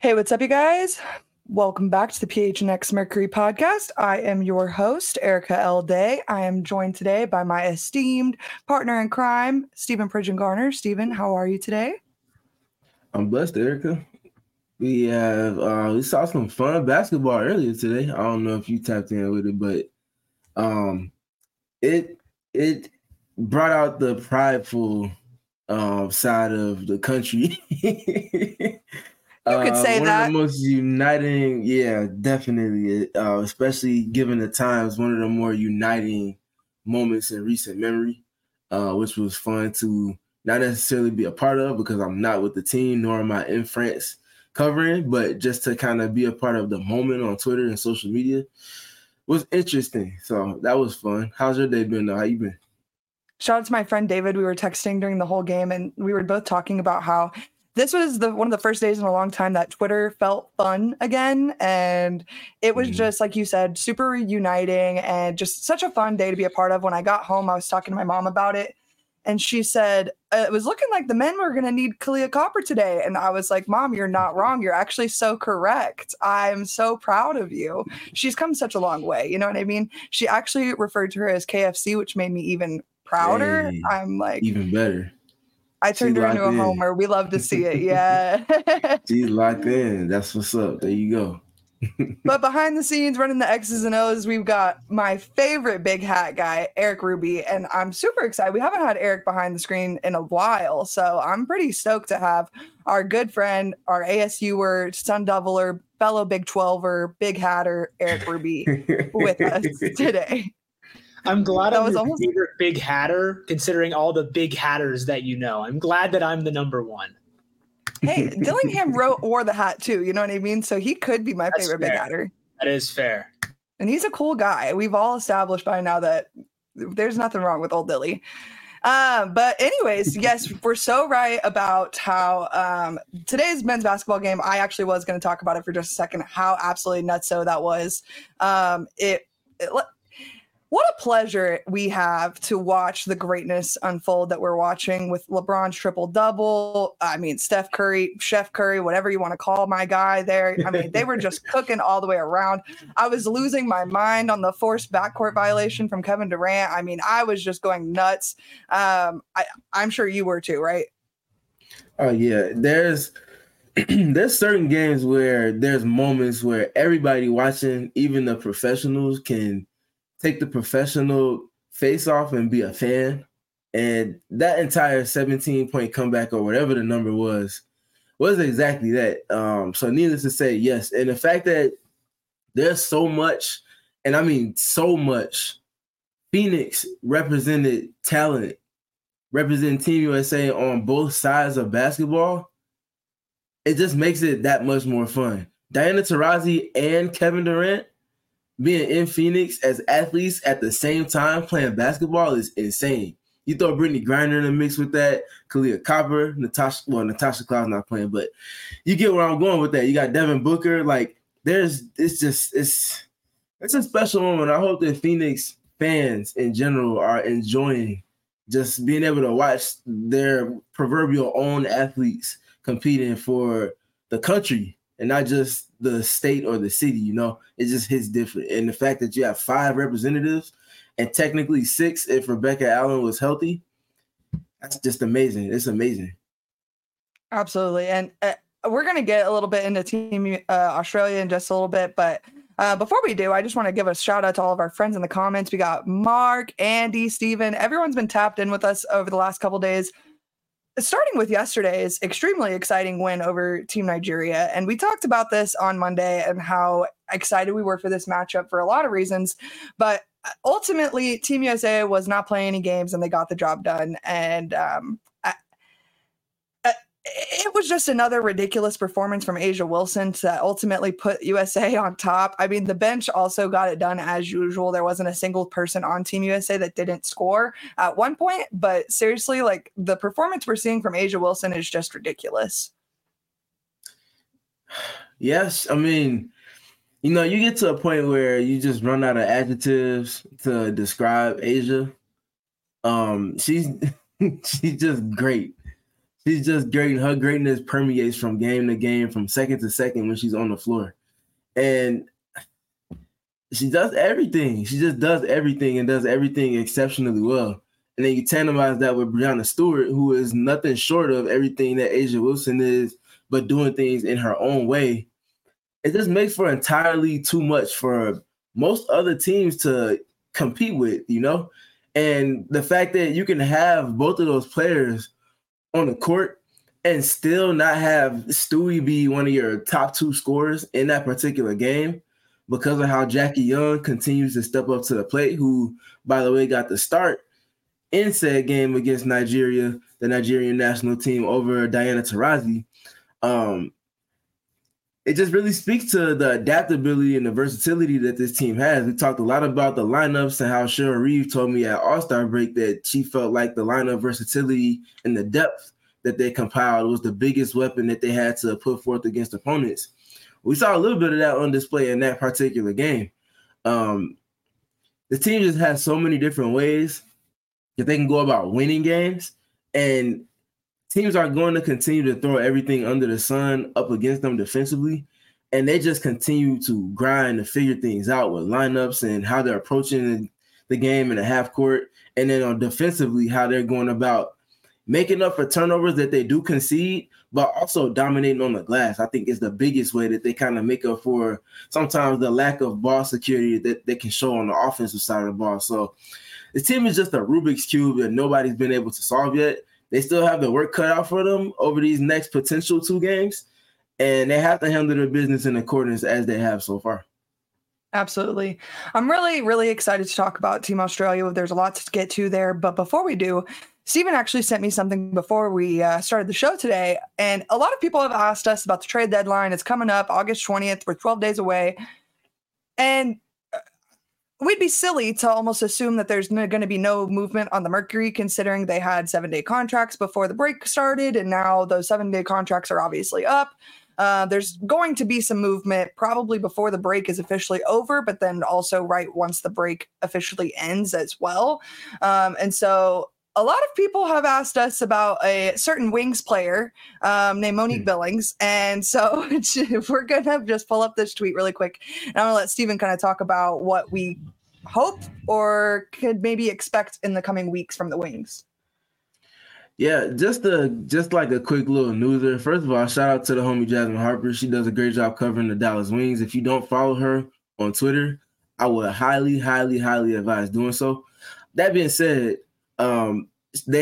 Hey, what's up, you guys? Welcome back to the PHNX Mercury podcast. I am your host, Erica L. Day. I am joined today by my esteemed partner in crime, Stephen Pridgeon Garner. Stephen, how are you today? I'm blessed, Erica. We saw some fun basketball earlier today. I don't know if you tapped in with it, but it brought out the prideful side of the country. You could say one that. of the most uniting, yeah, definitely. Especially given the times, one of the more uniting moments in recent memory, which was fun to not necessarily be a part of because I'm not with the team, nor am I in France covering, but just to kind of be a part of the moment on Twitter and social media was interesting. So that was fun. How's your day been though? How you been? Shout out to my friend David. We were texting during the whole game, and we were both talking about how this was one of the first days in a long time that Twitter felt fun again. And it was just, like you said, super uniting and just such a fun day to be a part of. When I got home, I was talking to my mom about it. And she said, it was looking like the men were going to need Kahleah Copper today. And I was like, Mom, you're not wrong. You're actually so correct. I'm so proud of you. She's come such a long way. You know what I mean? She actually referred to her as KFC, which made me even prouder. Hey, I'm like, even better. I turned her into a homer. We love to see it. Yeah. She's locked in. That's what's up. There you go. But behind the scenes, running the X's and O's, we've got my favorite big hat guy, Eric Ruby. And I'm super excited. We haven't had Eric behind the screen in a while. So I'm pretty stoked to have our good friend, our ASUer, Sun Deviler, fellow Big 12er, big hatter, Eric Ruby with us today. I'm glad I'm your favorite big hatter, considering all the big hatters that you know. I'm glad that I'm the number one. Hey, Dillingham wore the hat too, you know what I mean? So he could be my favorite big hatter. That is fair. And he's a cool guy. We've all established by now that there's nothing wrong with old Dilly. But anyways, yes, we're so right about how today's men's basketball game, I actually was going to talk about it for just a second, how absolutely nutso that was. What a pleasure we have to watch the greatness unfold that we're watching with LeBron's triple-double. I mean, Steph Curry, Chef Curry, whatever you want to call my guy there. I mean, they were just cooking all the way around. I was losing my mind on the forced backcourt violation from Kevin Durant. I mean, I was just going nuts. I'm sure you were too, right? Oh, yeah. There's certain games where there's moments where everybody watching, even the professionals, can take the professional face off and be a fan. And that entire 17-point comeback or whatever the number was exactly that. So needless to say, yes. And the fact that there's so much, and I mean so much, Phoenix represented talent, representing Team USA on both sides of basketball, it just makes it that much more fun. Diana Taurasi and Kevin Durant being in Phoenix as athletes at the same time playing basketball is insane. You throw Brittany Griner in the mix with that, Kahleah Copper, Natasha Cloud's not playing, but you get where I'm going with that. You got Devin Booker. Like, it's a special moment. I hope that Phoenix fans in general are enjoying just being able to watch their proverbial own athletes competing for the country and not just the state or the city, you know. It just hits different. And the fact that you have 5 representatives and technically 6 if Rebecca Allen was healthy, that's just amazing. It's amazing. Absolutely. And we're going to get a little bit into Team Australia in just a little bit, but before we do, I just want to give a shout out to all of our friends in the comments. We got Mark, Andy, Steven. Everyone's been tapped in with us over the last couple days. Starting with yesterday's extremely exciting win over Team Nigeria. And we talked about this on Monday and how excited we were for this matchup for a lot of reasons. But ultimately, Team USA was not playing any games and they got the job done. And it was just another ridiculous performance from A'ja Wilson that ultimately put USA on top. I mean, the bench also got it done as usual. There wasn't a single person on Team USA that didn't score at one point. But seriously, like, the performance we're seeing from A'ja Wilson is just ridiculous. Yes. I mean, you know, you get to a point where you just run out of adjectives to describe A'ja. She's just great. she's just great. Her greatness permeates from game to game, from second to second when she's on the floor. And she does everything. She just does everything and does everything exceptionally well. And then you tandemize that with Breanna Stewart, who is nothing short of everything that A'ja Wilson is, but doing things in her own way. It just makes for entirely too much for most other teams to compete with, you know? And the fact that you can have both of those players on the court and still not have Stewie be one of your top 2 scorers in that particular game because of how Jackie Young continues to step up to the plate, who, by the way, got the start in said game against Nigeria, the Nigerian national team, over Diana Taurasi. It just really speaks to the adaptability and the versatility that this team has. We talked a lot about the lineups and how Cheryl Reeve told me at All-Star break that she felt like the lineup versatility and the depth that they compiled was the biggest weapon that they had to put forth against opponents. We saw a little bit of that on display in that particular game. The team just has so many different ways that they can go about winning games, and teams are going to continue to throw everything under the sun up against them defensively, and they just continue to grind to figure things out with lineups and how they're approaching the game in the half court, and then on defensively, how they're going about making up for turnovers that they do concede, but also dominating on the glass. I think is the biggest way that they kind of make up for sometimes the lack of ball security that they can show on the offensive side of the ball. So this team is just a Rubik's Cube that nobody's been able to solve yet. They still have the work cut out for them over these next potential 2 games, and they have to handle their business in accordance as they have so far. Absolutely. I'm really, really excited to talk about Team Australia. There's a lot to get to there, but before we do, Stephen actually sent me something before we started the show today, and a lot of people have asked us about the trade deadline. It's coming up August 20th. We're 12 days away, and we'd be silly to almost assume that there's going to be no movement on the Mercury, considering they had 7-day contracts before the break started, and now those 7-day contracts are obviously up. There's going to be some movement probably before the break is officially over, but then also right once the break officially ends as well. And so a lot of people have asked us about a certain Wings player named Monique Billings. And so we're going to just pull up this tweet really quick. And I'm going to let Stephen kind of talk about what we hope or could maybe expect in the coming weeks from the Wings. Yeah, just like a quick little newser. First of all, shout out to the homie Jasmine Harper. She does a great job covering the Dallas Wings. If you don't follow her on Twitter, I would highly, highly, highly advise doing so. That being said, they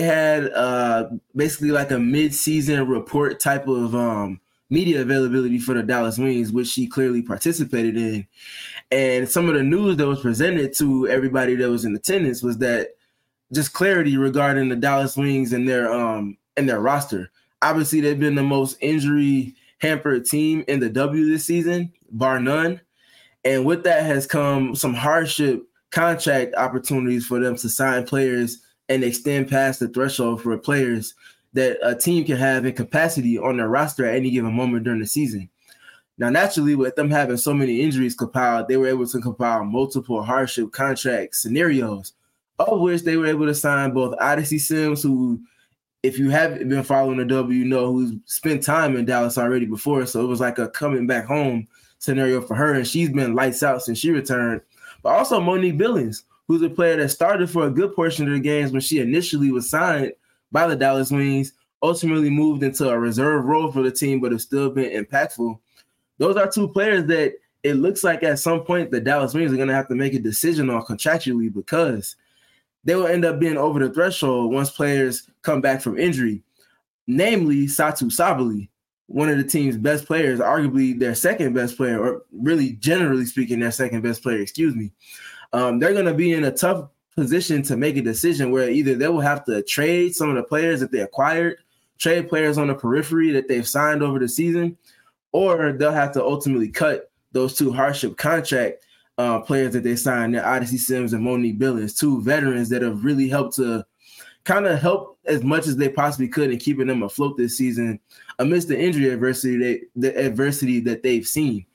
had basically like a mid-season report type of media availability for the Dallas Wings, which she clearly participated in. And some of the news that was presented to everybody that was in attendance was that just clarity regarding the Dallas Wings and their roster. Obviously, they've been the most injury-hampered team in the W this season, bar none. And with that has come some hardship contract opportunities for them to sign players and extend past the threshold for players that a team can have in capacity on their roster at any given moment during the season. Now, naturally, with them having so many injuries compiled, they were able to compile multiple hardship contract scenarios, of which they were able to sign both Odyssey Sims, who, if you haven't been following the W, you know who's spent time in Dallas already before. So it was like a coming back home scenario for her, and she's been lights out since she returned. But also Monique Billings, who's a player that started for a good portion of the games when she initially was signed by the Dallas Wings, ultimately moved into a reserve role for the team, but have still been impactful. Those are two players that it looks like at some point the Dallas Wings are going to have to make a decision on contractually, because they will end up being over the threshold once players come back from injury, namely Satu Sabally, one of the team's best players, arguably their second best player, or really generally speaking, their second best player, they're going to be in a tough position to make a decision where either they will have to trade some of the players that they acquired, trade players on the periphery that they've signed over the season, or they'll have to ultimately cut those two hardship contract players that they signed, Odyssey Sims and Monique Billings, two veterans that have really helped to kind of help as much as they possibly could in keeping them afloat this season amidst the injury adversity that they've seen.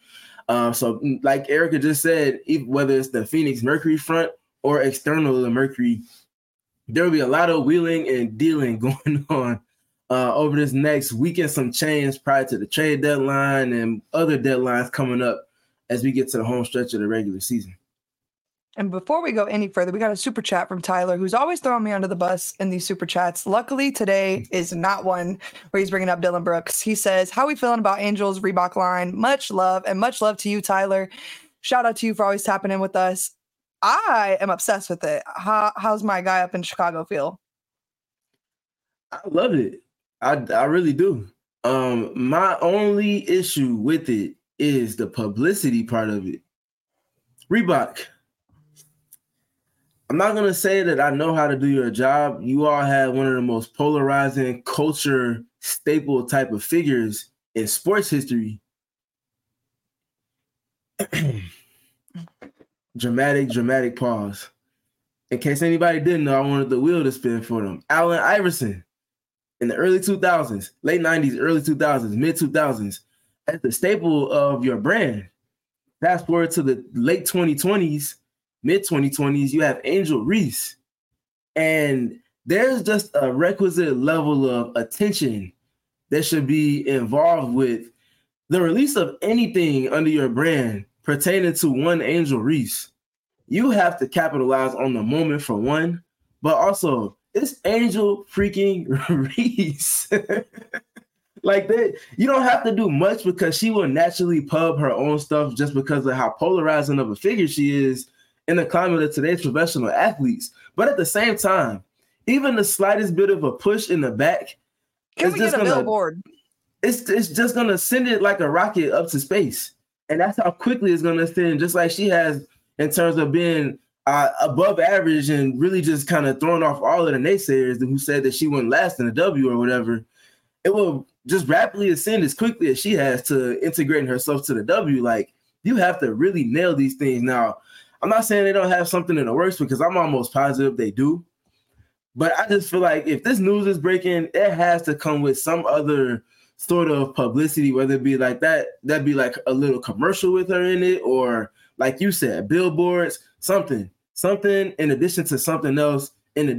So like Erica just said, whether it's the Phoenix Mercury front or external to the Mercury, there will be a lot of wheeling and dealing going on over this next week and some change prior to the trade deadline and other deadlines coming up as we get to the home stretch of the regular season. And before we go any further, we got a super chat from Tyler, who's always throwing me under the bus in these super chats. Luckily, today is not one where he's bringing up Dylan Brooks. He says, how are we feeling about Angels Reebok line? Much love, and much love to you, Tyler. Shout out to you for always tapping in with us. I am obsessed with it. How's my guy up in Chicago feel? I love it. I really do. My only issue with it is the publicity part of it. Reebok, I'm not going to say that I know how to do your job. You all have one of the most polarizing culture staple type of figures in sports history. Dramatic pause. In case anybody didn't know, I wanted the wheel to spin for them. Allen Iverson in the early 2000s, late 90s, early 2000s, mid 2000s, as the staple of your brand. Fast forward to the late 2020s, mid 2020s, you have Angel Reese. And there's just a requisite level of attention that should be involved with the release of anything under your brand pertaining to one Angel Reese. You have to capitalize on the moment for one, but also it's Angel freaking Reese. Like that, you don't have to do much because she will naturally pub her own stuff just because of how polarizing of a figure she is in the climate of today's professional athletes. But at the same time, even the slightest bit of a push in the back, can we get a billboard? It's just gonna send it like a rocket up to space, and that's how quickly it's gonna send. Just like she has in terms of being above average and really just kind of throwing off all of the naysayers who said that she wouldn't last in a W or whatever. It will just rapidly ascend as quickly as she has to integrating herself to the W. Like, you have to really nail these things. Now, I'm not saying they don't have something in the works because I'm almost positive they do. But I just feel like if this news is breaking, it has to come with some other sort of publicity, whether it be like that'd be like a little commercial with her in it, or like you said, billboards, something in addition to something else,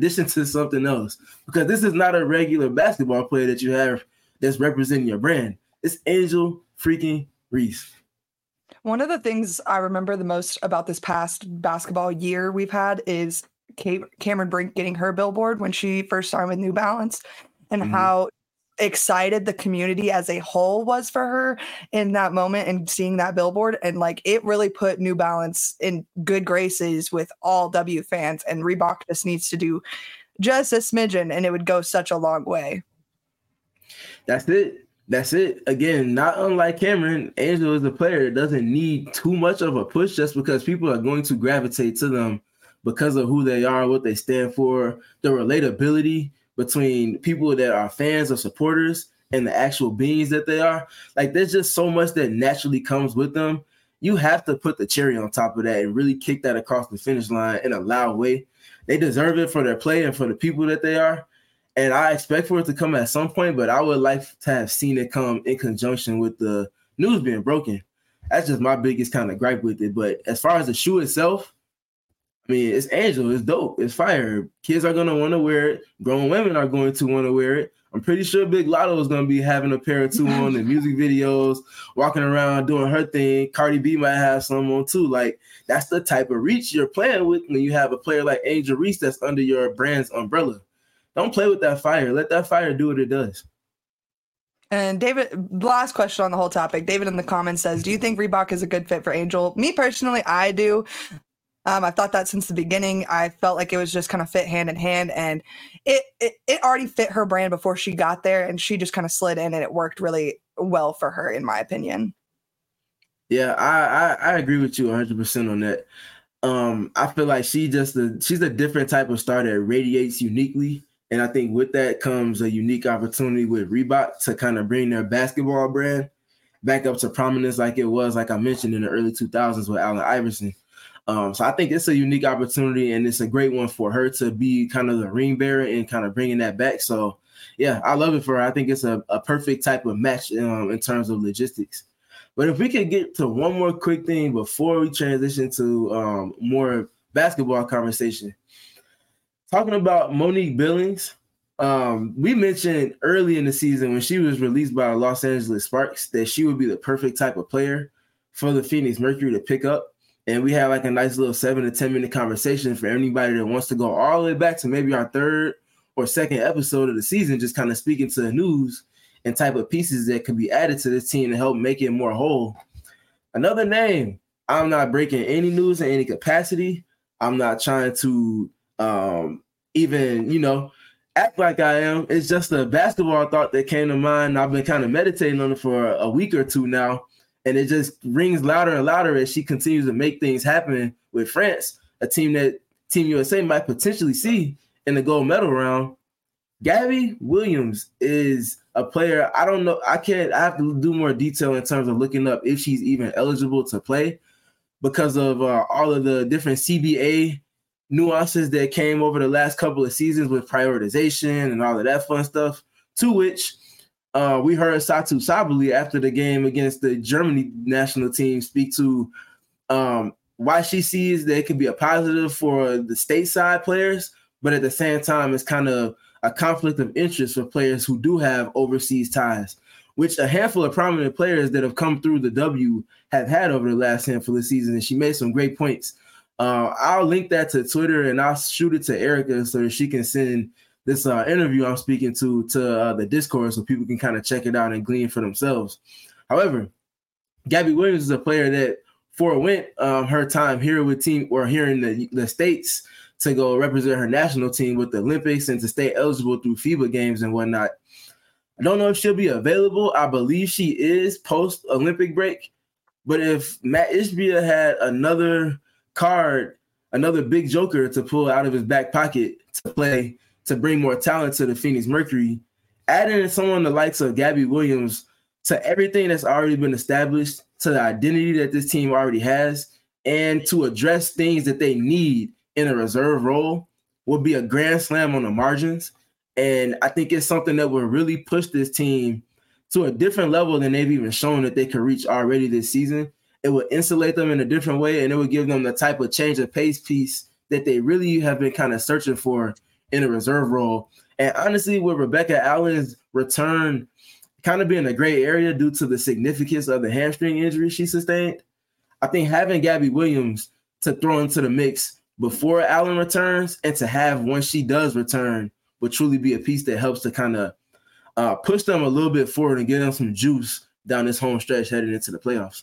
because this is not a regular basketball player that you have that's representing your brand. It's Angel freaking Reese. One of the things I remember the most about this past basketball year we've had is Cameron Brink getting her billboard when she first signed with New Balance, and how excited the community as a whole was for her in that moment and seeing that billboard. And like, it really put New Balance in good graces with all W fans, and Reebok just needs to do just a smidgen and it would go such a long way. That's it. Again, not unlike Cameron, Angel is a player that doesn't need too much of a push just because people are going to gravitate to them because of who they are, what they stand for, the relatability between people that are fans or supporters and the actual beings that they are. Like, there's just so much that naturally comes with them. You have to put the cherry on top of that and really kick that across the finish line in a loud way. They deserve it for their play and for the people that they are. And I expect for it to come at some point, but I would like to have seen it come in conjunction with the news being broken. That's just my biggest kind of gripe with it. But as far as the shoe itself, I mean, it's Angel. It's dope. It's fire. Kids are going to want to wear it. Grown women are going to want to wear it. I'm pretty sure Big Lotto is going to be having a pair or two on in music videos, walking around doing her thing. Cardi B might have some on too. Like, that's the type of reach you're playing with when you have a player like Angel Reese that's under your brand's umbrella. Don't play with that fire. Let that fire do what it does. And David, last question on the whole topic. David in the comments says, do you think Reebok is a good fit for Angel? Me personally, I do. I've thought that since the beginning. I felt like it was just kind of fit hand in hand, and it already fit her brand before she got there, and she just kind of slid in, and it worked really well for her, in my opinion. Yeah, I agree with you 100% on that. I feel like she's a different type of star that radiates uniquely, and I think with that comes a unique opportunity with Reebok to kind of bring their basketball brand back up to prominence, like it was, like I mentioned, in the early 2000s with Allen Iverson. So I think it's a unique opportunity, and it's a great one for her to be kind of the ring bearer and kind of bringing that back. So, yeah, I love it for her. I think it's a perfect type of match in terms of logistics. But if we could get to one more quick thing before we transition to more basketball conversation. Talking about Monique Billings, We mentioned early in the season when she was released by the Los Angeles Sparks that she would be the perfect type of player for the Phoenix Mercury to pick up. And we had like a nice little 7 to 10 minute conversation for anybody that wants to go all the way back to maybe our third or second episode of the season, just kind of speaking to the news and type of pieces that could be added to this team to help make it more whole. Another name, I'm not breaking any news in any capacity. I'm not trying to even, act like I am. It's just a basketball thought that came to mind. I've been kind of meditating on it for a week or two now, and it just rings louder and louder as she continues to make things happen with France, a team that Team USA might potentially see in the gold medal round. Gabby Williams is a player. I don't know. I have to do more detail in terms of looking up if she's even eligible to play because of all of the different CBA nuances that came over the last couple of seasons with prioritization and all of that fun stuff, to which we heard Satou Sabally after the game against the Germany national team speak to why she sees that it could be a positive for the stateside players, but at the same time, it's kind of a conflict of interest for players who do have overseas ties, which a handful of prominent players that have come through the W have had over the last handful of seasons. And she made some great points. I'll link that to Twitter and I'll shoot it to Erica so that she can send this interview I'm speaking to the Discord so people can kind of check it out and glean for themselves. However, Gabby Williams is a player that forewent her time here with here in the States to go represent her national team with the Olympics and to stay eligible through FIBA games and whatnot. I don't know if she'll be available. I believe she is post-Olympic break. But if Matt Ishbia had another card, another big joker to pull out of his back pocket to play, to bring more talent to the Phoenix Mercury, adding someone the likes of Gabby Williams to everything that's already been established, to the identity that this team already has, and to address things that they need in a reserve role would be a grand slam on the margins. And I think it's something that will really push this team to a different level than they've even shown that they could reach already this season. It would insulate them in a different way, and it would give them the type of change of pace piece that they really have been kind of searching for in a reserve role. And honestly, with Rebecca Allen's return kind of being a gray area due to the significance of the hamstring injury she sustained, I think having Gabby Williams to throw into the mix before Allen returns and to have once she does return would truly be a piece that helps to kind of push them a little bit forward and give them some juice down this home stretch headed into the playoffs.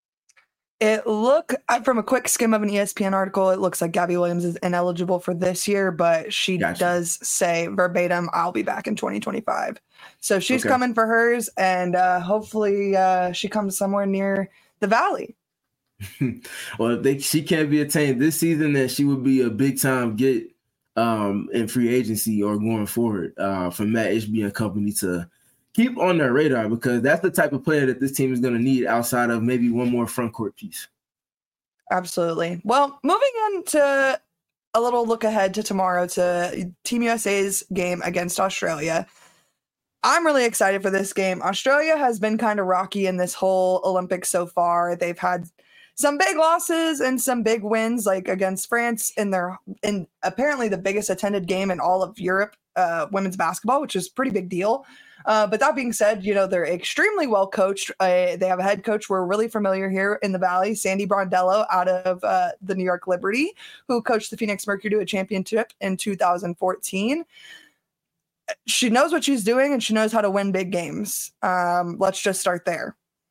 From a quick skim of an ESPN article, it looks like Gabby Williams is ineligible for this year, but she does say verbatim, I'll be back in 2025. So she's coming for hers, and hopefully she comes somewhere near the Valley. Well, if she can't be attained this season, then she would be a big time get in free agency or going forward for Matt Ishbia and company to keep on their radar, because that's the type of player that this team is going to need outside of maybe one more front court piece. Absolutely. Well, moving on to a little look ahead to tomorrow, to Team USA's game against Australia. I'm really excited for this game. Australia has been kind of rocky in this whole Olympics so far. They've had some big losses and some big wins, like against France in apparently the biggest attended game in all of Europe, women's basketball, which is a pretty big deal. But that being said, they're extremely well coached. They have a head coach we're really familiar here in the Valley, Sandy Brondello, out of the New York Liberty, who coached the Phoenix Mercury to a championship in 2014. She knows what she's doing, and she knows how to win big games. Let's just start there.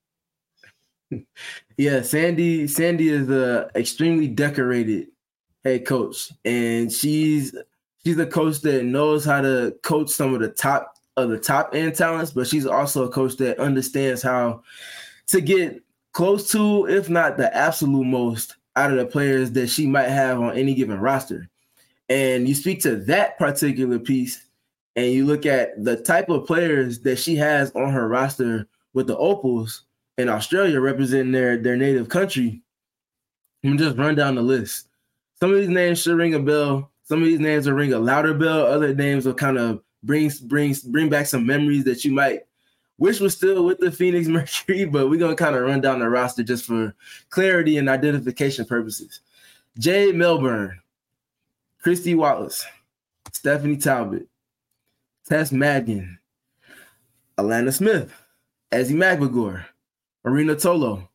Yeah, Sandy is a extremely decorated head coach, and she's a coach that knows how to coach some of the top end talents, but she's also a coach that understands how to get close to, if not the absolute most, out of the players that she might have on any given roster. And you speak to that particular piece, and you look at the type of players that she has on her roster with the Opals in Australia representing their native country. I'm just run down the list. Some of these names should ring a bell. Some of these names will ring a louder bell. Other names will kind of bring back some memories that you might wish was still with the Phoenix Mercury, but we're going to kind of run down the roster just for clarity and identification purposes. Jade Melbourne, Christy Wallace, Stephanie Talbot, Tess Madigan, Alana Smith, Ezzy McMcGore, Marina Tolo,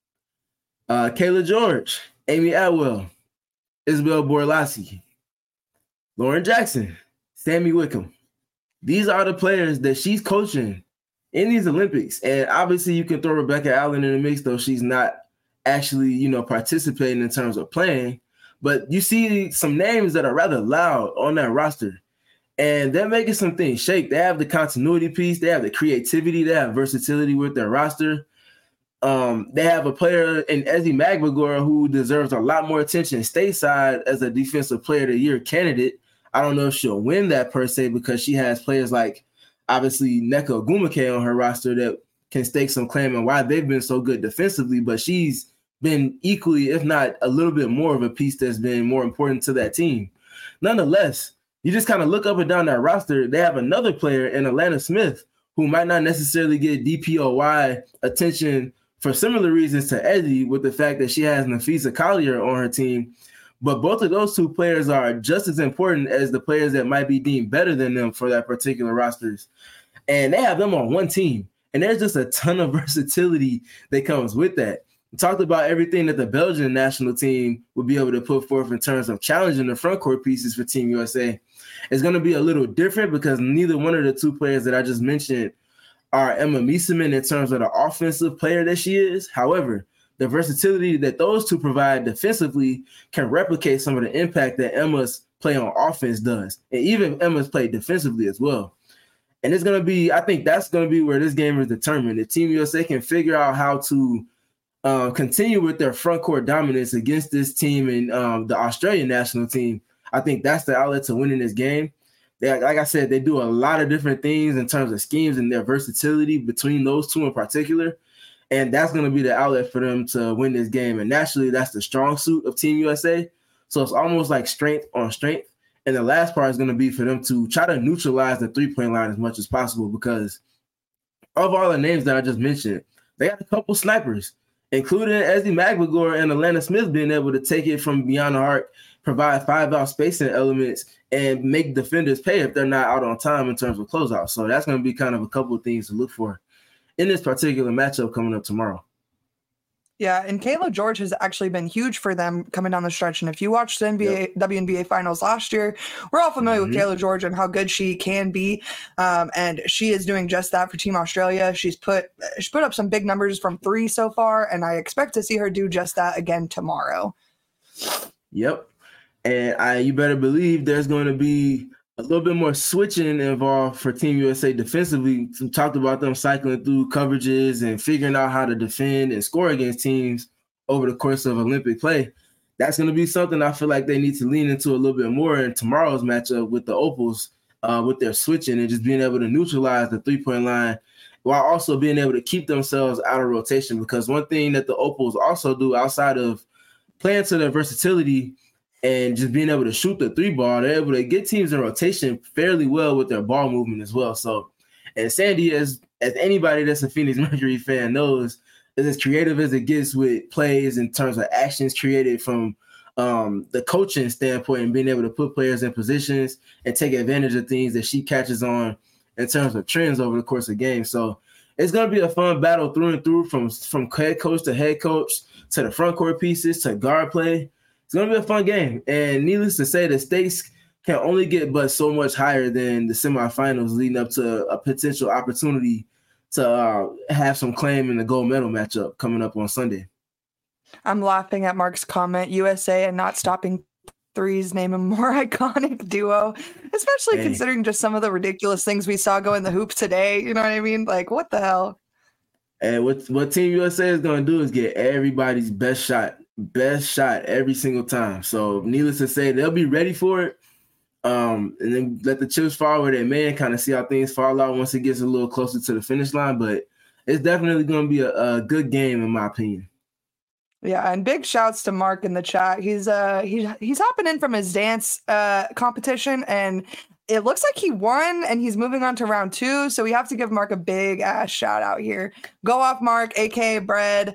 Kayla George, Amy Atwell, Isabel Borlassi, Lauren Jackson, Sammy Wickham. These are the players that she's coaching in these Olympics. And obviously you can throw Rebecca Allen in the mix, though she's not actually, participating in terms of playing. But you see some names that are rather loud on that roster. And they're making some things shake. They have the continuity piece. They have the creativity. They have versatility with their roster. They have a player in Ezzy McMcGore who deserves a lot more attention stateside as a defensive player of the year candidate. I don't know if she'll win that per se because she has players like, obviously, Nneka Ogwumike on her roster that can stake some claim on why they've been so good defensively, but she's been equally, if not a little bit more of a piece that's been more important to that team. Nonetheless, you just kind of look up and down that roster. They have another player in Alana Smith who might not necessarily get DPOY attention for similar reasons to Eddie, with the fact that she has Nafisa Collier on her team. But both of those two players are just as important as the players that might be deemed better than them for that particular rosters. And they have them on one team. And there's just a ton of versatility that comes with that. We talked about everything that the Belgian national team would be able to put forth in terms of challenging the front court pieces for Team USA. It's going to be a little different because neither one of the two players that I just mentioned are Emma Miesemann in terms of the offensive player that she is. However, the versatility that those two provide defensively can replicate some of the impact that Emma's play on offense does, and even Emma's play defensively as well. And it's going to be, I think that's going to be where this game is determined. If Team USA can figure out how to continue with their front court dominance against this team and the Australian national team, I think that's the outlet to winning this game. Like I said, they do a lot of different things in terms of schemes and their versatility between those two in particular. And that's going to be the outlet for them to win this game. And naturally, that's the strong suit of Team USA. So it's almost like strength on strength. And the last part is going to be for them to try to neutralize the three-point line as much as possible, because of all the names that I just mentioned, they got a couple snipers, including Ezzy McMcGore and Alana Smith being able to take it from beyond the arc, provide 5-out spacing elements, and make defenders pay if they're not out on time in terms of closeouts. So that's going to be kind of a couple of things to look for in this particular matchup coming up tomorrow. Yeah, and Kayla George has actually been huge for them coming down the stretch. And if you watched the WNBA finals last year, we're all familiar with Kayla George and how good she can be. And she is doing just that for Team Australia. She put up some big numbers from three so far, and I expect to see her do just that again tomorrow. Yep. And you better believe there's going to be a little bit more switching involved for Team USA defensively. We talked about them cycling through coverages and figuring out how to defend and score against teams over the course of Olympic play. That's going to be something I feel like they need to lean into a little bit more in tomorrow's matchup with the Opals, with their switching and just being able to neutralize the three-point line while also being able to keep themselves out of rotation. Because one thing that the Opals also do outside of playing to their versatility and just being able to shoot the three ball, they're able to get teams in rotation fairly well with their ball movement as well. So, and Sandy, as anybody that's a Phoenix Mercury fan knows, is as creative as it gets with plays in terms of actions created from the coaching standpoint and being able to put players in positions and take advantage of things that she catches on in terms of trends over the course of games. So it's going to be a fun battle through and through from head coach to head coach to the front court pieces to guard play. It's going to be a fun game. And needless to say, the stakes can only get but so much higher than the semifinals leading up to a potential opportunity to have some claim in the gold medal matchup coming up on Sunday. I'm laughing at Mark's comment, USA and not stopping threes name a more iconic duo, especially considering just some of the ridiculous things we saw go in the hoop today. You know what I mean? Like, what the hell? And what Team USA is going to do is get everybody's best shot every single time. So needless to say, they'll be ready for it. And then let the chips fall where they may and kind of see how things fall out once it gets a little closer to the finish line. But it's definitely going to be a good game, in my opinion. Yeah, and big shouts to Mark in the chat. He's hopping in from his dance competition, and it looks like he won, and he's moving on to round 2. So we have to give Mark a big ass shout out here. Go off, Mark, aka Bread.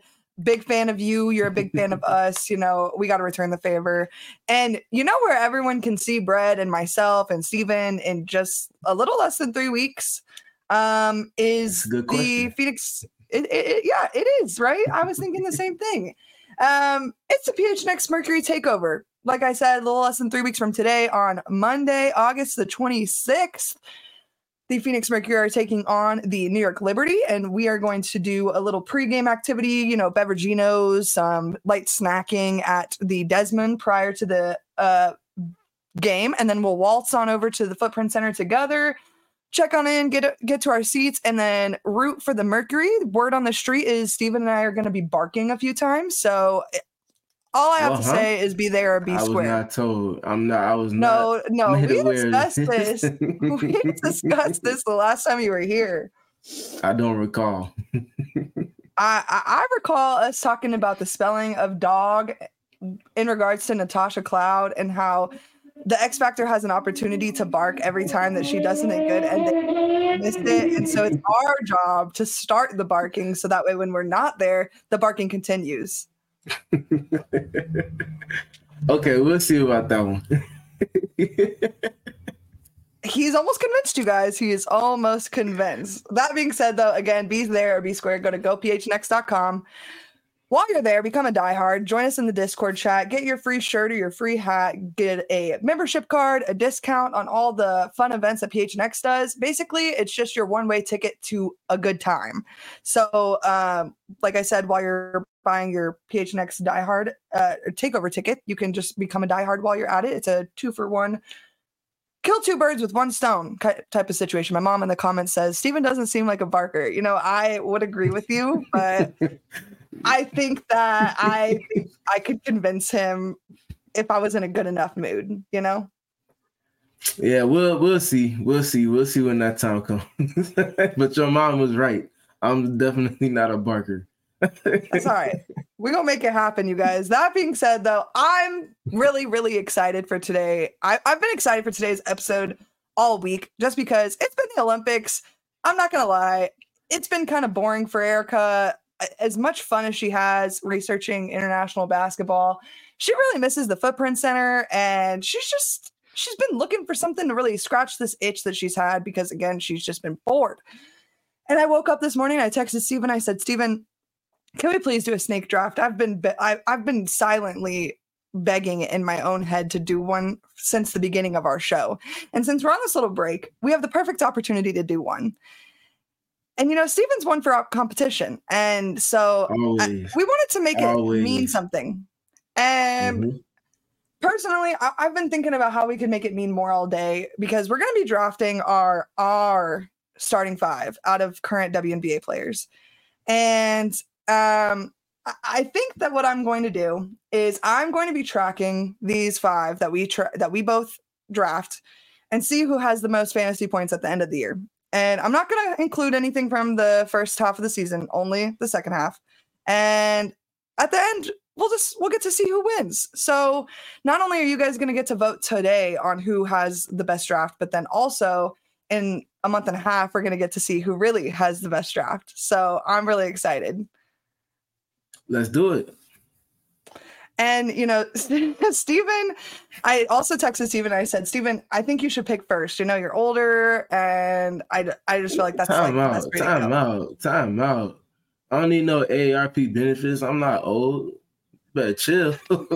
big fan of you. You're a big fan of us. You know, we got to return the favor. And you know where everyone can see Brett and myself and Steven in just a little less than 3 weeks is the Phoenix. Yeah, it is, right? I was thinking the same thing. It's the PHNX Mercury Takeover. Like I said, a little less than 3 weeks from today on Monday, August the 26th. The Phoenix Mercury are taking on the New York Liberty, and we are going to do a little pregame activity, you know, beveraginos, some light snacking at the Desmond prior to the game, and then we'll waltz on over to the Footprint Center together, check on in, get to our seats, and then root for the Mercury. Word on the street is Steven and I are going to be barking a few times, so all I have to say is be there or be square. I was not told. I was not. No. We discussed this. We discussed this the last time you were here. I don't recall. I recall us talking about the spelling of dog in regards to Natasha Cloud and how the X Factor has an opportunity to bark every time that she does something good and they missed it. And so it's our job to start the barking so that way when we're not there, the barking continues. Okay, we'll see about that one. He's almost convinced you guys. He is almost convinced. That being said, though, again, be there or be square. Go to gophnx.com. While you're there, become a diehard. Join us in the Discord chat. Get your free shirt or your free hat. Get a membership card, a discount on all the fun events that PHNX does. Basically, it's just your one-way ticket to a good time. So, like I said, while you're buying your PHNX diehard takeover ticket, you can just become a diehard while you're at it. It's a 2-for-1. Kill two birds with one stone type of situation. My mom in the comments says, Steven doesn't seem like a barker. You know, I would agree with you, but I think that I could convince him if I was in a good enough mood, you know? Yeah, we'll see. We'll see when that time comes. But your mom was right. I'm definitely not a barker. That's all right. We're going to make it happen, you guys. That being said, though, I'm really, really excited for today. I've been excited for today's episode all week just because it's been the Olympics. I'm not going to lie. It's been kind of boring for Erica. As much fun as she has researching international basketball, she really misses the Footprint Center. And she's been looking for something to really scratch this itch that she's had because, again, she's just been bored. And I woke up this morning, I texted Steven. I said, Steven, can we please do a snake draft? I've been silently begging in my own head to do one since the beginning of our show. And since we're on this little break, we have the perfect opportunity to do one. And, you know, Steven's one for competition. And so we wanted to make it mean something. And personally, I've been thinking about how we could make it mean more all day because we're going to be drafting our starting 5 out of current WNBA players. And I think that what I'm going to do is I'm going to be tracking these 5 that we both draft and see who has the most fantasy points at the end of the year. And I'm not going to include anything from the first half of the season, only the second half. And at the end, we'll get to see who wins. So not only are you guys going to get to vote today on who has the best draft, but then also in a month and a half, we're going to get to see who really has the best draft. So I'm really excited. Let's do it. And, you know, Steven, I also texted Steven. I said, Steven, I think you should pick first. You know, you're older, and I just feel like that's time out. I don't need no AARP benefits. I'm not old. Better chill.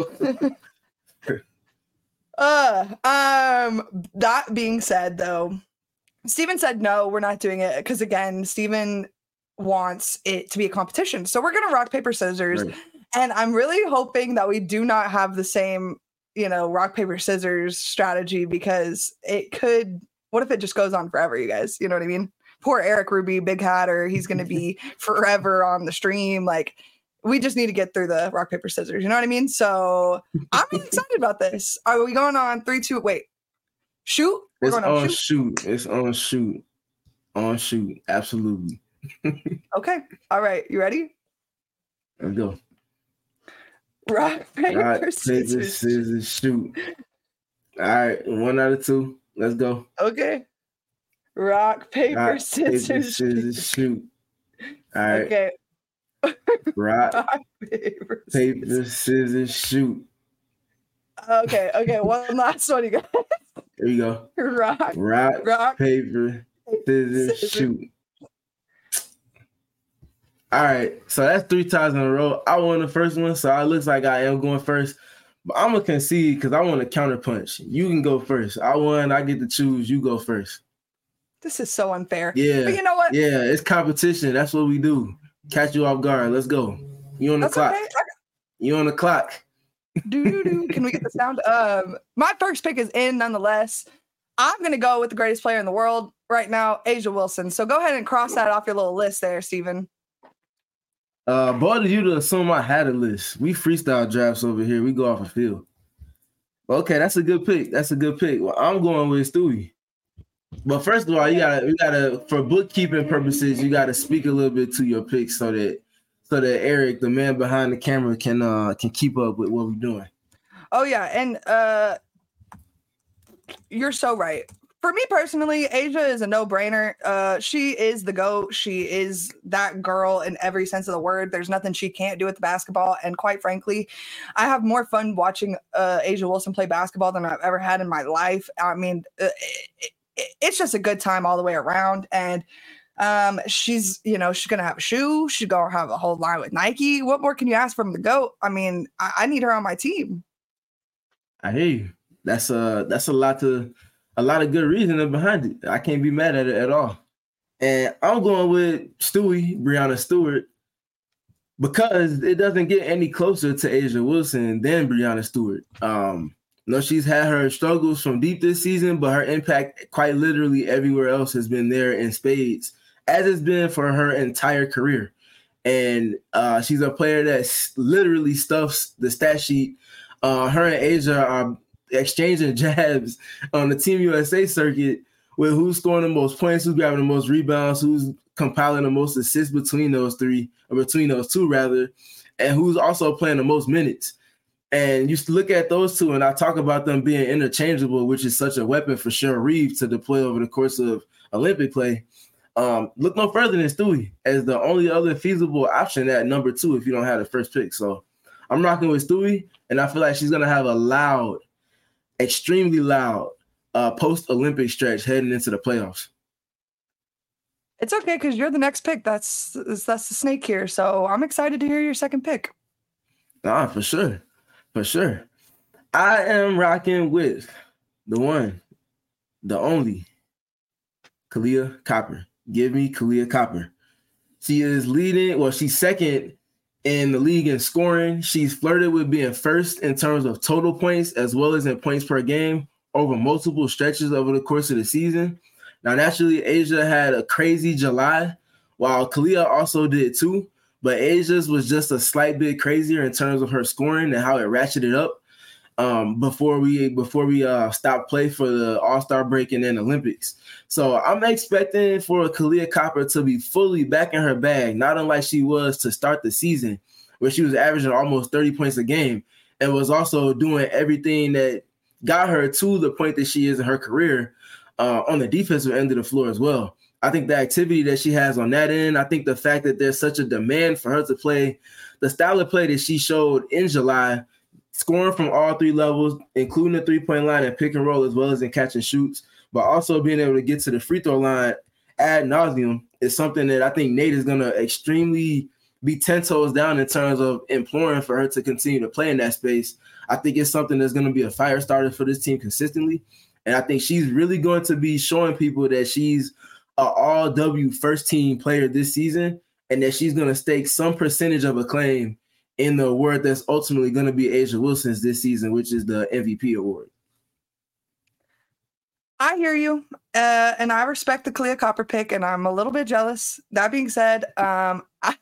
That being said, though, Steven said no, we're not doing it because again, Steven wants it to be a competition. So we're gonna rock, paper, scissors. Right. And I'm really hoping that we do not have the same, you know, rock, paper, scissors strategy because it could, what if it just goes on forever, you guys? You know what I mean? Poor Eric Ruby, big hatter. He's going to be forever on the stream. Like, we just need to get through the rock, paper, scissors. You know what I mean? So I'm really excited about this. Are we going on 3, 2, wait, shoot? It's on shoot. It's on shoot. On shoot. Absolutely. Okay. All right. You ready? Let's go. Rock, paper, scissors, shoot. All right, 1 out of 2. Let's go. Okay. Rock, paper, scissors, shoot. All right. Okay. Rock, paper, scissors, shoot. Okay. One last one, you guys. There you go. Rock, paper, scissors, shoot. All right, so that's 3 times in a row. I won the first one, so it looks like I am going first. But I'm going to concede because I want to counterpunch. You can go first. I won. I get to choose. You go first. This is so unfair. Yeah. But you know what? Yeah, it's competition. That's what we do. Catch you off guard. Let's go. You on the clock. Okay. You on the clock. Do. Can we get the sound? My first pick is in nonetheless. I'm going to go with the greatest player in the world right now, A'ja Wilson. So go ahead and cross that off your little list there, Steven. Bothered you to assume I had a list. We freestyle drafts over here. We go off a field. Okay, that's a good pick. Well, I'm going with Stewie. But first of all, you gotta for bookkeeping purposes, you gotta speak a little bit to your picks so that Eric, the man behind the camera, can keep up with what we're doing. Oh yeah, and you're so right. For me personally, A'ja is a no-brainer. She is the GOAT. She is that girl in every sense of the word. There's nothing she can't do with the basketball. And quite frankly, I have more fun watching A'ja Wilson play basketball than I've ever had in my life. I mean, it's just a good time all the way around. And she's going to have a shoe. She's going to have a whole line with Nike. What more can you ask from the GOAT? I mean, I need her on my team. I hear you. That's a lot of good reasoning behind it. I can't be mad at it at all. And I'm going with Stewie, Breanna Stewart, because it doesn't get any closer to A'ja Wilson than Breanna Stewart. She's had her struggles from deep this season, but her impact quite literally everywhere else has been there in spades, as it's been for her entire career. And she's a player that literally stuffs the stat sheet. Her and A'ja are exchanging jabs on the Team USA circuit with who's scoring the most points, who's grabbing the most rebounds, who's compiling the most assists between those two, and who's also playing the most minutes. And you look at those two, and I talk about them being interchangeable, which is such a weapon for Cheryl Reeve to deploy over the course of Olympic play. Look no further than Stewie as the only other feasible option at number 2 if you don't have the first pick. So I'm rocking with Stewie, and I feel like she's going to have a extremely loud post-Olympic stretch heading into the playoffs. It's okay because you're the next pick. That's the snake here. So I'm excited to hear your second pick. For sure. I am rocking with the one, the only, Kahleah Copper. Give me Kahleah Copper. She is leading. Well, she's second in the league in scoring. She's flirted with being first in terms of total points as well as in points per game over multiple stretches over the course of the season. Now, naturally, A'ja had a crazy July, while Kahleah also did too. But A'ja's was just a slight bit crazier in terms of her scoring and how it ratcheted up before we stopped play for the All-Star break and then Olympics. So I'm expecting for Kahleah Copper to be fully back in her bag, not unlike she was to start the season, where she was averaging almost 30 points a game and was also doing everything that got her to the point that she is in her career on the defensive end of the floor as well. I think the activity that she has on that end, I think the fact that there's such a demand for her to play the style of play that she showed in July, scoring from all 3 levels, including the 3-point line and pick and roll, as well as in catch and shoots, but also being able to get to the free throw line ad nauseum is something that I think Nate is going to extremely be 10 toes down in terms of imploring for her to continue to play in that space. I think it's something that's going to be a fire starter for this team consistently. And I think she's really going to be showing people that she's an all-W first-team player this season and that she's going to stake some percentage of acclaim in the award that's ultimately going to be A'ja Wilson's this season, which is the MVP award. I hear you, and I respect the Kahleah Copper pick, and I'm a little bit jealous. That being said, I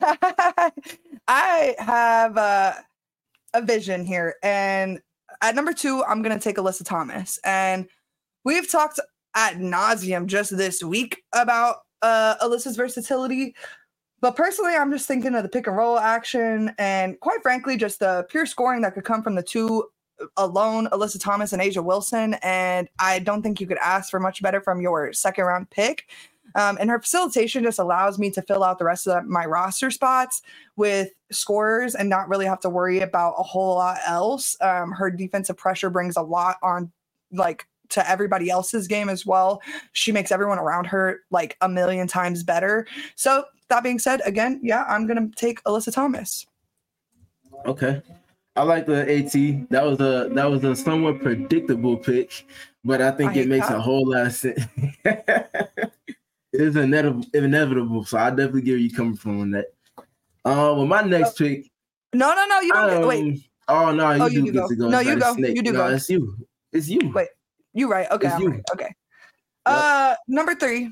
have a vision here, and at number 2, I'm going to take Alyssa Thomas. And we've talked ad nauseum just this week about Alyssa's versatility. But personally, I'm just thinking of the pick and roll action and quite frankly, just the pure scoring that could come from the 2 alone, Alyssa Thomas and A'ja Wilson. And I don't think you could ask for much better from your second round pick. And her facilitation just allows me to fill out the rest of my roster spots with scorers and not really have to worry about a whole lot else. Her defensive pressure brings a lot on, like, to everybody else's game as well. She makes everyone around her like a million times better. So that being said, again, yeah, I'm going to take Alyssa Thomas. Okay. I like the AT. That was a somewhat predictable pick, but I think it makes a whole lot of sense. It is inevitable, so I definitely get where you coming from on that. Well, my next pick. No, you don't wait. Oh no, you do get to go. No, you go. You do go. It's you. Wait, you right? Okay, I'm right. Okay. Yep. Number 3.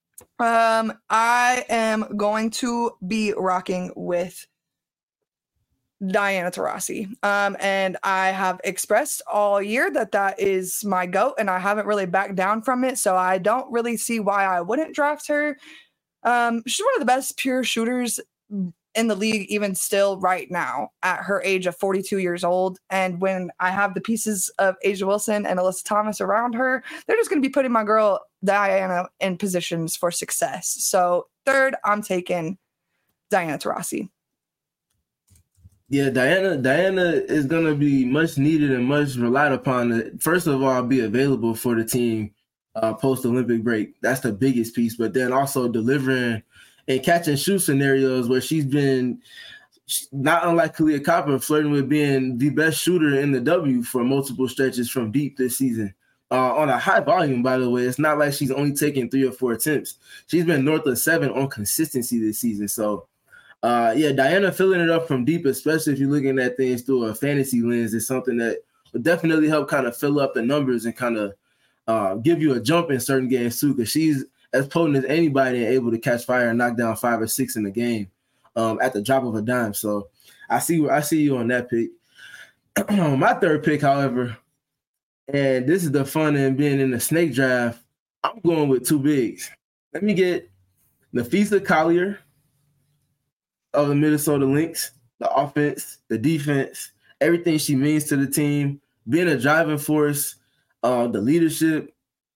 I am going to be rocking with Diana Taurasi. And I have expressed all year that is my GOAT, and I haven't really backed down from it. So I don't really see why I wouldn't draft her. She's one of the best pure shooters in the league, even still right now at her age of 42 years old. And when I have the pieces of A'ja Wilson and Alyssa Thomas around her, they're just going to be putting my girl Diana in positions for success. So 3rd, I'm taking Diana Taurasi. Yeah, Diana is going to be much needed and much relied upon to, first of all, be available for the team post-Olympic break. That's the biggest piece. But then also delivering and catch and shoot scenarios where she's been, not unlike Kahleah Copper, flirting with being the best shooter in the W for multiple stretches from deep this season. On a high volume, by the way. It's not like she's only taking 3 or 4 attempts. She's been north of 7 on consistency this season. So, Diana filling it up from deep, especially if you're looking at things through a fantasy lens, is something that would definitely help kind of fill up the numbers and kind of give you a jump in certain games too, because she's as potent as anybody and able to catch fire and knock down 5 or 6 in the game at the drop of a dime. So I see you on that pick. My 3rd pick, however, and this is the fun in being in the snake draft, I'm going with 2 bigs. Let me get Napheesa Collier of the Minnesota Lynx, the offense, the defense, everything she means to the team, being a driving force, the leadership.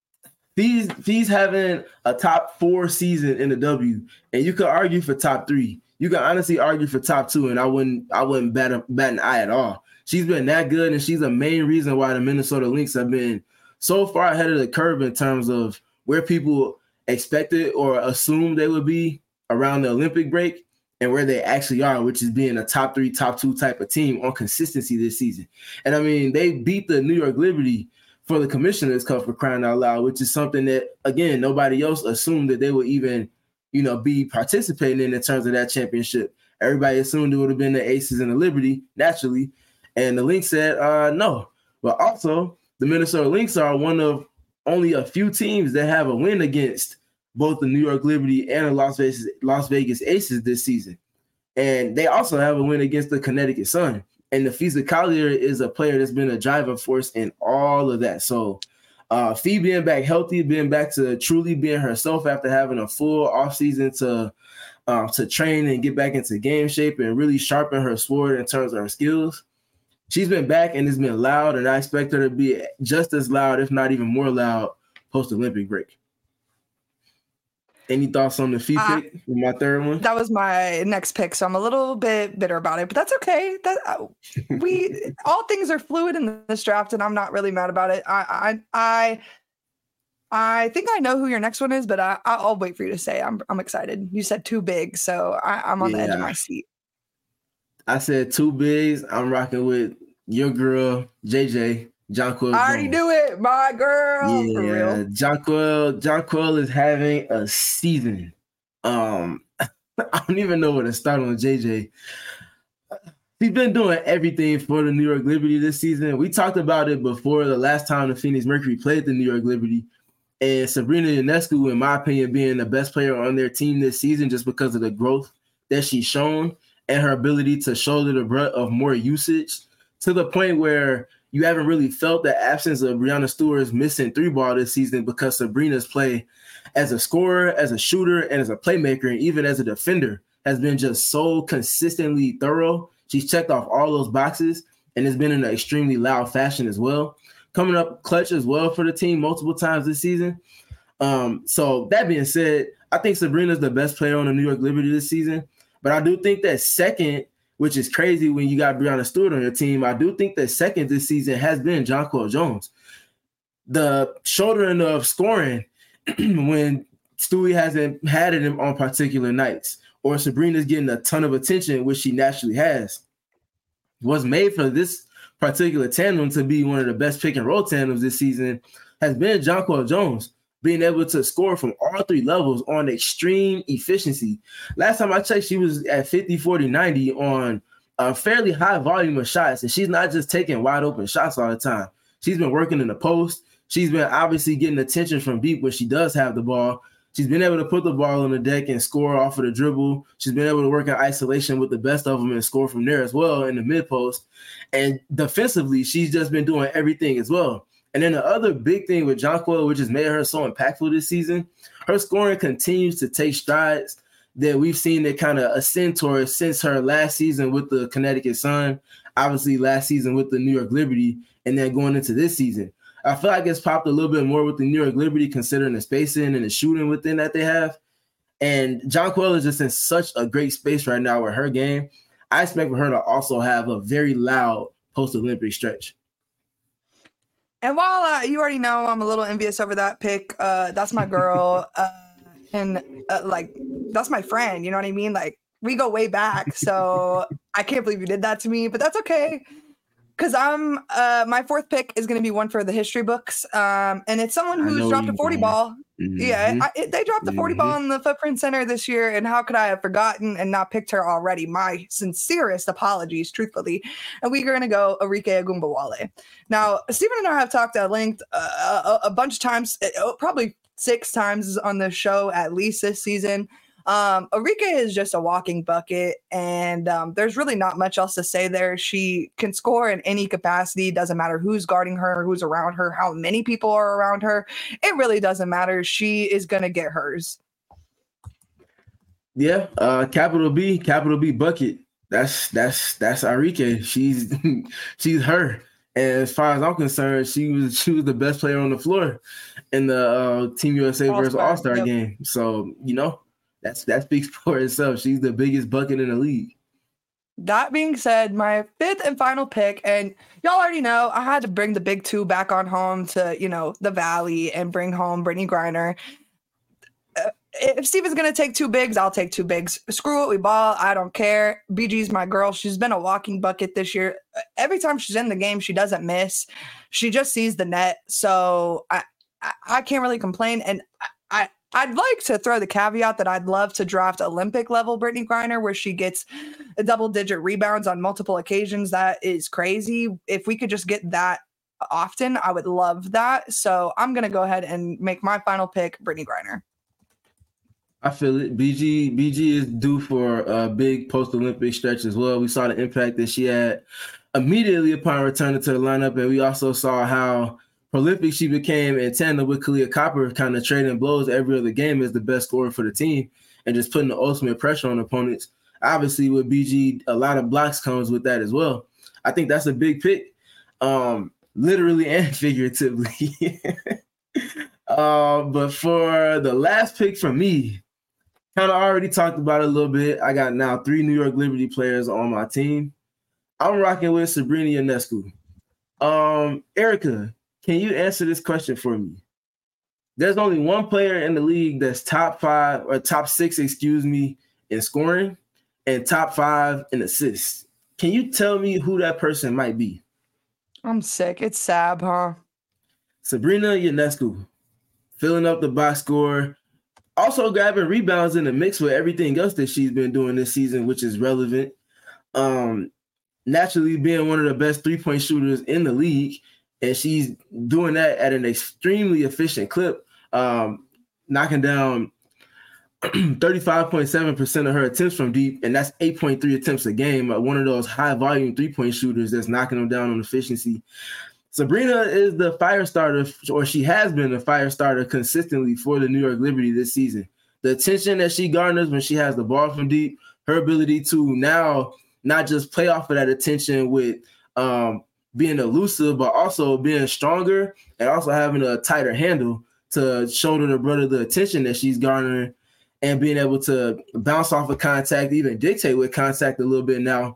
He's having a top 4 season in the W, and you could argue for top 3. You can honestly argue for top 2, and I wouldn't bat an eye at all. She's been that good, and she's the main reason why the Minnesota Lynx have been so far ahead of the curve in terms of where people expected or assumed they would be around the Olympic break and where they actually are, which is being a top 3, top 2 type of team on consistency this season. And I mean, they beat the New York Liberty for the Commissioner's Cup, for crying out loud, which is something that, again, nobody else assumed that they would even, be participating in terms of that championship. Everybody assumed it would have been the Aces and the Liberty, naturally. And the Lynx said, no. But also, the Minnesota Lynx are one of only a few teams that have a win against both the New York Liberty and the Las Vegas Aces this season. And they also have a win against the Connecticut Sun. And Napheesa Collier is a player that's been a driving force in all of that. So Fee being back healthy, being back to truly being herself after having a full offseason to train and get back into game shape and really sharpen her sword in terms of her skills. She's been back and it's been loud, and I expect her to be just as loud, if not even more loud, post-Olympic break. Any thoughts on the Fee pick, my 3rd one? That was my next pick, so I'm a little bit bitter about it, but that's okay. All things are fluid in this draft, and I'm not really mad about it. I think I know who your next one is, but I'll wait for you to say. I'm excited. You said 2 big, so I'm on the edge of my seat. I said 2 bigs. I'm rocking with your girl, JJ. Jonquel. I already knew it, my girl. Yeah, for real. Jonquel is having a season. I don't even know where to start on JJ. He's been doing everything for the New York Liberty this season. We talked about it before the last time the Phoenix Mercury played the New York Liberty. And Sabrina Ionescu, in my opinion, being the best player on their team this season just because of the growth that she's shown and her ability to shoulder the brunt of more usage to the point where you haven't really felt the absence of Breanna Stewart's missing 3-ball this season because Sabrina's play as a scorer, as a shooter, and as a playmaker, and even as a defender has been just so consistently thorough. She's checked off all those boxes, and it's been in an extremely loud fashion as well. Coming up clutch as well for the team multiple times this season. So that being said, I think Sabrina's the best player on the New York Liberty this season. But I do think that second, which is crazy when you got Breanna Stewart on your team, I do think that second this season has been Jonquel Jones. The shouldering of scoring when Stewie hasn't had it on particular nights, or Sabrina's getting a ton of attention, which she naturally has, was made for this particular tandem to be one of the best pick and roll tandems this season, has been Jonquel Jones being able to score from all three levels on extreme efficiency. Last time I checked, she was at 50, 40, 90 on a fairly high volume of shots, and she's not just taking wide open shots all the time. She's been working in the post. She's been obviously getting attention from deep when she does have the ball. She's been able to put the ball on the deck and score off of the dribble. She's been able to work in isolation with the best of them and score from there as well in the mid post. And defensively, she's just been doing everything as well. And then the other big thing with Jonquel, which has made her so impactful this season, her scoring continues to take strides that we've seen it kind of ascend towards since her last season with the Connecticut Sun, obviously last season with the New York Liberty, and then going into this season. I feel like it's popped a little bit more with the New York Liberty considering the spacing and the shooting within that they have. And Jonquel is just in such a great space right now with her game. I expect for her to also have a very loud post-Olympic stretch. And while you already know I'm a little envious over that pick, that's my girl. That's my friend. You know what I mean? Like, we go way back. So I can't believe you did that to me, but that's okay. Because my fourth pick is going to be one for the history books. And it's someone who's dropped a 40 ball. Mm-hmm. Yeah, they dropped the 40 ball in the Footprint Center this year. And how could I have forgotten and not picked her already? My sincerest apologies, truthfully. And we're going to go Arike Ogunbowale. Now, Stephen and I have talked at length a bunch of times, probably 6 times on the show at least this season. Arike is just a walking bucket, and there's really not much else to say there. She can score in any capacity. Doesn't matter who's guarding her, who's around her, how many people are around her. It really doesn't matter. She is going to get hers. Yeah, capital B bucket. That's Arike. She's her. And as far as I'm concerned, she was the best player on the floor in the Team USA versus All-Star game. So, that speaks for itself. She's the biggest bucket in the league. That being said, my 5th and final pick, and y'all already know I had to bring the big 2 back on home to, the Valley and bring home Brittney Griner. If Steven's going to take 2 bigs, I'll take 2 bigs. Screw it, we ball. I don't care. BG's my girl. She's been a walking bucket this year. Every time she's in the game, she doesn't miss. She just sees the net. So I can't really complain. And I'd like to throw the caveat that I'd love to draft Olympic level Brittney Griner, where she gets a double-digit rebounds on multiple occasions. That is crazy. If we could just get that often, I would love that. So I'm going to go ahead and make my final pick, Brittney Griner. I feel it. BG is due for a big post-Olympic stretch as well. We saw the impact that she had immediately upon returning to the lineup, and we also saw how prolific she became in tandem with Kahleah Copper, kind of trading blows every other game as the best scorer for the team and just putting the ultimate pressure on opponents. Obviously, with BG, a lot of blocks comes with that as well. I think that's a big pick, literally and figuratively. But for the last pick from me, kind of already talked about it a little bit. I got now 3 New York Liberty players on my team. I'm rocking with Sabrina Ionescu. Erica, can you answer this question for me? There's only one player in the league that's top 6, in scoring and top 5 in assists. Can you tell me who that person might be? I'm sick. It's Sab, huh? Sabrina Ionescu, filling up the box score, also grabbing rebounds in the mix with everything else that she's been doing this season, which is relevant. Naturally being one of the best 3-point shooters in the league, and she's doing that at an extremely efficient clip, knocking down 35.7% of her attempts from deep, and that's 8.3 attempts a game. One of those high-volume 3-point shooters that's knocking them down on efficiency. Sabrina is the fire starter, or she has been the fire starter consistently for the New York Liberty this season. The attention that she garners when she has the ball from deep, her ability to now not just play off of that attention with being elusive, but also being stronger and also having a tighter handle to shoulder the brother the attention that she's garnering and being able to bounce off of contact, even dictate with contact a little bit now.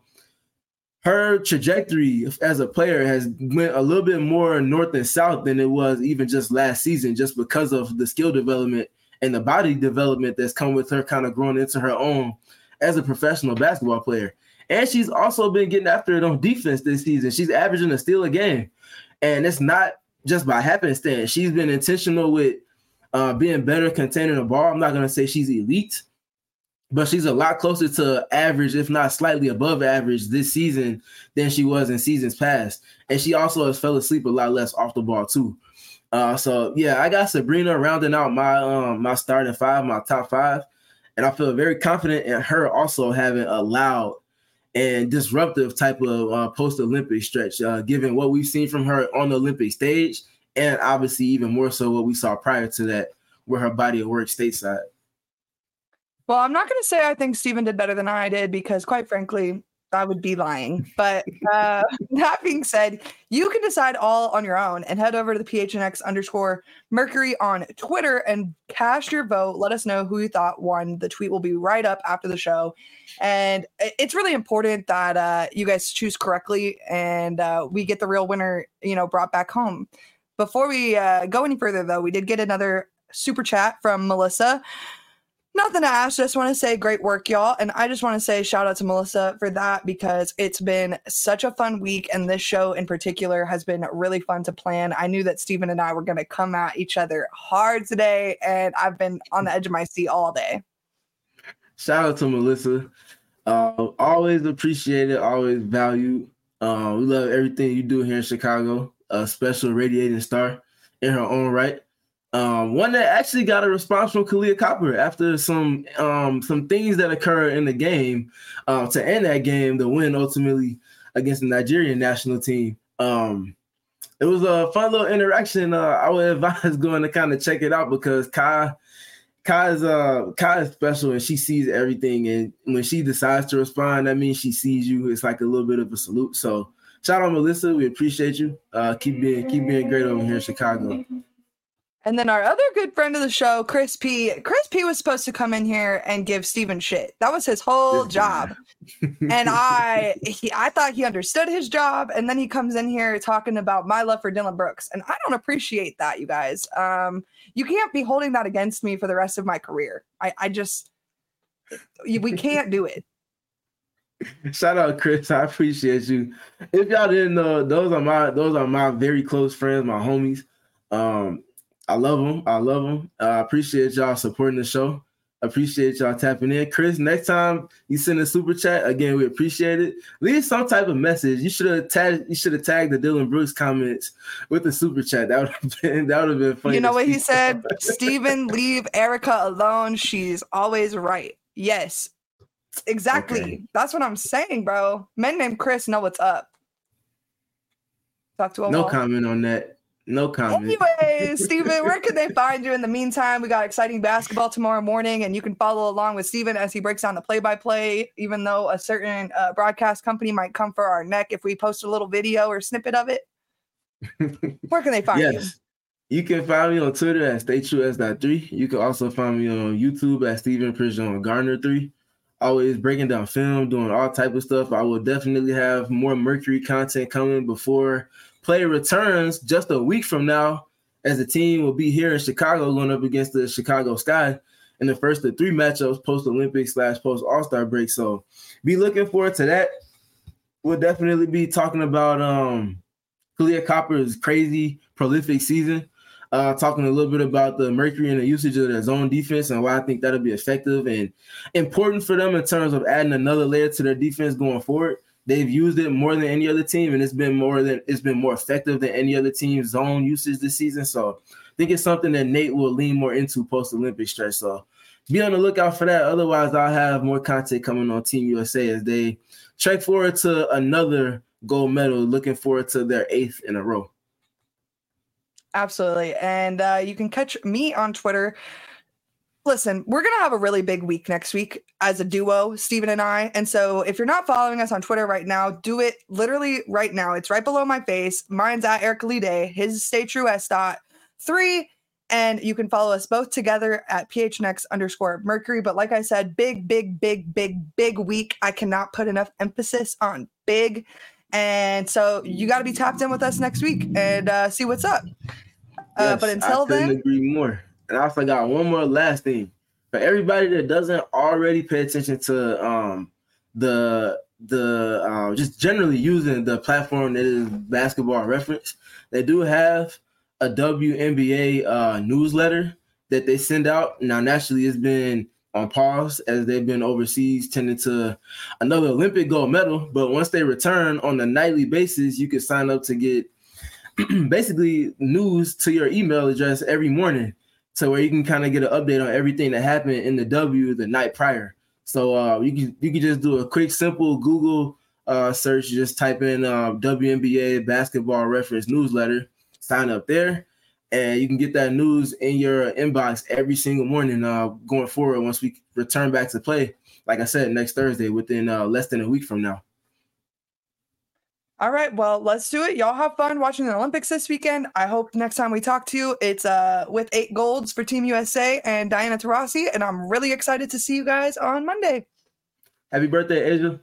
Her trajectory as a player has went a little bit more north and south than it was even just last season, just because of the skill development and the body development that's come with her kind of growing into her own as a professional basketball player. And she's also been getting after it on defense this season. She's averaging a steal a game. And it's not just by happenstance. She's been intentional with being better containing the ball. I'm not going to say she's elite, but she's a lot closer to average, if not slightly above average this season than she was in seasons past. And she also has fell asleep a lot less off the ball too. So yeah, I got Sabrina rounding out my starting five, my top five. And I feel very confident in her also having a loud and disruptive type of post-Olympic stretch, given what we've seen from her on the Olympic stage, and obviously even more so what we saw prior to that with her body of work stateside. Well, I'm not going to say I think Steven did better than I did, because quite frankly, I would be lying. But that being said, you can decide all on your own and head over to the PHNX_Mercury on Twitter and cast your vote. Let us know who you thought won. The tweet will be right up after the show. And it's really important that you guys choose correctly and we get the real winner, brought back home. Before we go any further, though, we did get another super chat from Melissa. Nothing to ask, just want to say great work, y'all. And I just want to say shout out to Melissa for that, because it's been such a fun week. And this show in particular has been really fun to plan. I knew that Steven and I were going to come at each other hard today, and I've been on the edge of my seat all day. Shout out to Melissa. Always appreciate it, always value. We love everything you do here in Chicago. A special radiating star in her own right. One that actually got a response from Kahleah Copper after some things that occurred in the game to end that game, the win ultimately against the Nigerian national team. It was a fun little interaction. I would advise going to kind of check it out, because Kai is special and she sees everything. And when she decides to respond, that means she sees you. It's like a little bit of a salute. So shout out, Melissa. We appreciate you. Keep being great over here in Chicago. And then our other good friend of the show, Chris P. Chris P was supposed to come in here and give Steven shit. That was his whole job. And I thought he understood his job. And then he comes in here talking about my love for Dillon Brooks. And I don't appreciate that, you guys. You can't be holding that against me for the rest of my career. We can't do it. Shout out, Chris. I appreciate you. If y'all didn't know, those are my very close friends, my homies. I love them. I appreciate y'all supporting the show. Appreciate y'all tapping in. Chris, next time you send a super chat, again, we appreciate it. Leave some type of message. You should have tagged the Dillon Brooks comments with the super chat. That would have been funny. You know what he said? Steven, leave Erica alone. She's always right. Yes, exactly. Okay. That's what I'm saying, bro. Men named Chris know what's up. Talk to him. No comment on that. No comment. Anyways, Steven, where can they find you in the meantime? We got exciting basketball tomorrow morning, and you can follow along with Steven as he breaks down the play-by-play, even though a certain broadcast company might come for our neck if we post a little video or snippet of it. Where can they find you? You can find me on Twitter at StayTrueS.3. You can also find me on YouTube at Steven Prejean Garner 3. Always breaking down film, doing all type of stuff. I will definitely have more Mercury content coming before play returns just a week from now, as the team will be here in Chicago going up against the Chicago Sky in the first of 3 matchups post-Olympics / post-All-Star break. So be looking forward to that. We'll definitely be talking about Kahleah Copper's crazy, prolific season, talking a little bit about the Mercury and the usage of their zone defense and why I think that'll be effective and important for them in terms of adding another layer to their defense going forward. They've used it more than any other team, and it's been more effective than any other team's zone usage this season. So I think it's something that Nate will lean more into post-Olympic stretch. So be on the lookout for that. Otherwise, I'll have more content coming on Team USA as they trek forward to another gold medal, looking forward to their 8th in a row. Absolutely. And you can catch me on Twitter. Listen, we're going to have a really big week next week as a duo, Steven and I. And so if you're not following us on Twitter right now, do it literally right now. It's right below my face. Mine's at Erica Lee Day. His is StayTrueS.3. And you can follow us both together at PHNX_Mercury. But like I said, big week. I cannot put enough emphasis on big. And so you got to be tapped in with us next week and see what's up. Yes, but until I couldn't agree more. And I forgot one more last thing. For everybody that doesn't already pay attention to just generally using the platform that is Basketball Reference, they do have a WNBA newsletter that they send out. Now, naturally, it's been on pause as they've been overseas tending to another Olympic gold medal. But once they return on a nightly basis, you can sign up to get basically news to your email address every morning, so where you can kind of get an update on everything that happened in the W the night prior. So you can just do a quick, simple Google search. Just type in WNBA Basketball Reference newsletter, sign up there, and you can get that news in your inbox every single morning going forward once we return back to play, like I said, next Thursday, within less than a week from now. All right, well, let's do it. Y'all have fun watching the Olympics this weekend. I hope next time we talk to you, it's with 8 golds for Team USA and Diana Taurasi, and I'm really excited to see you guys on Monday. Happy birthday, Asia.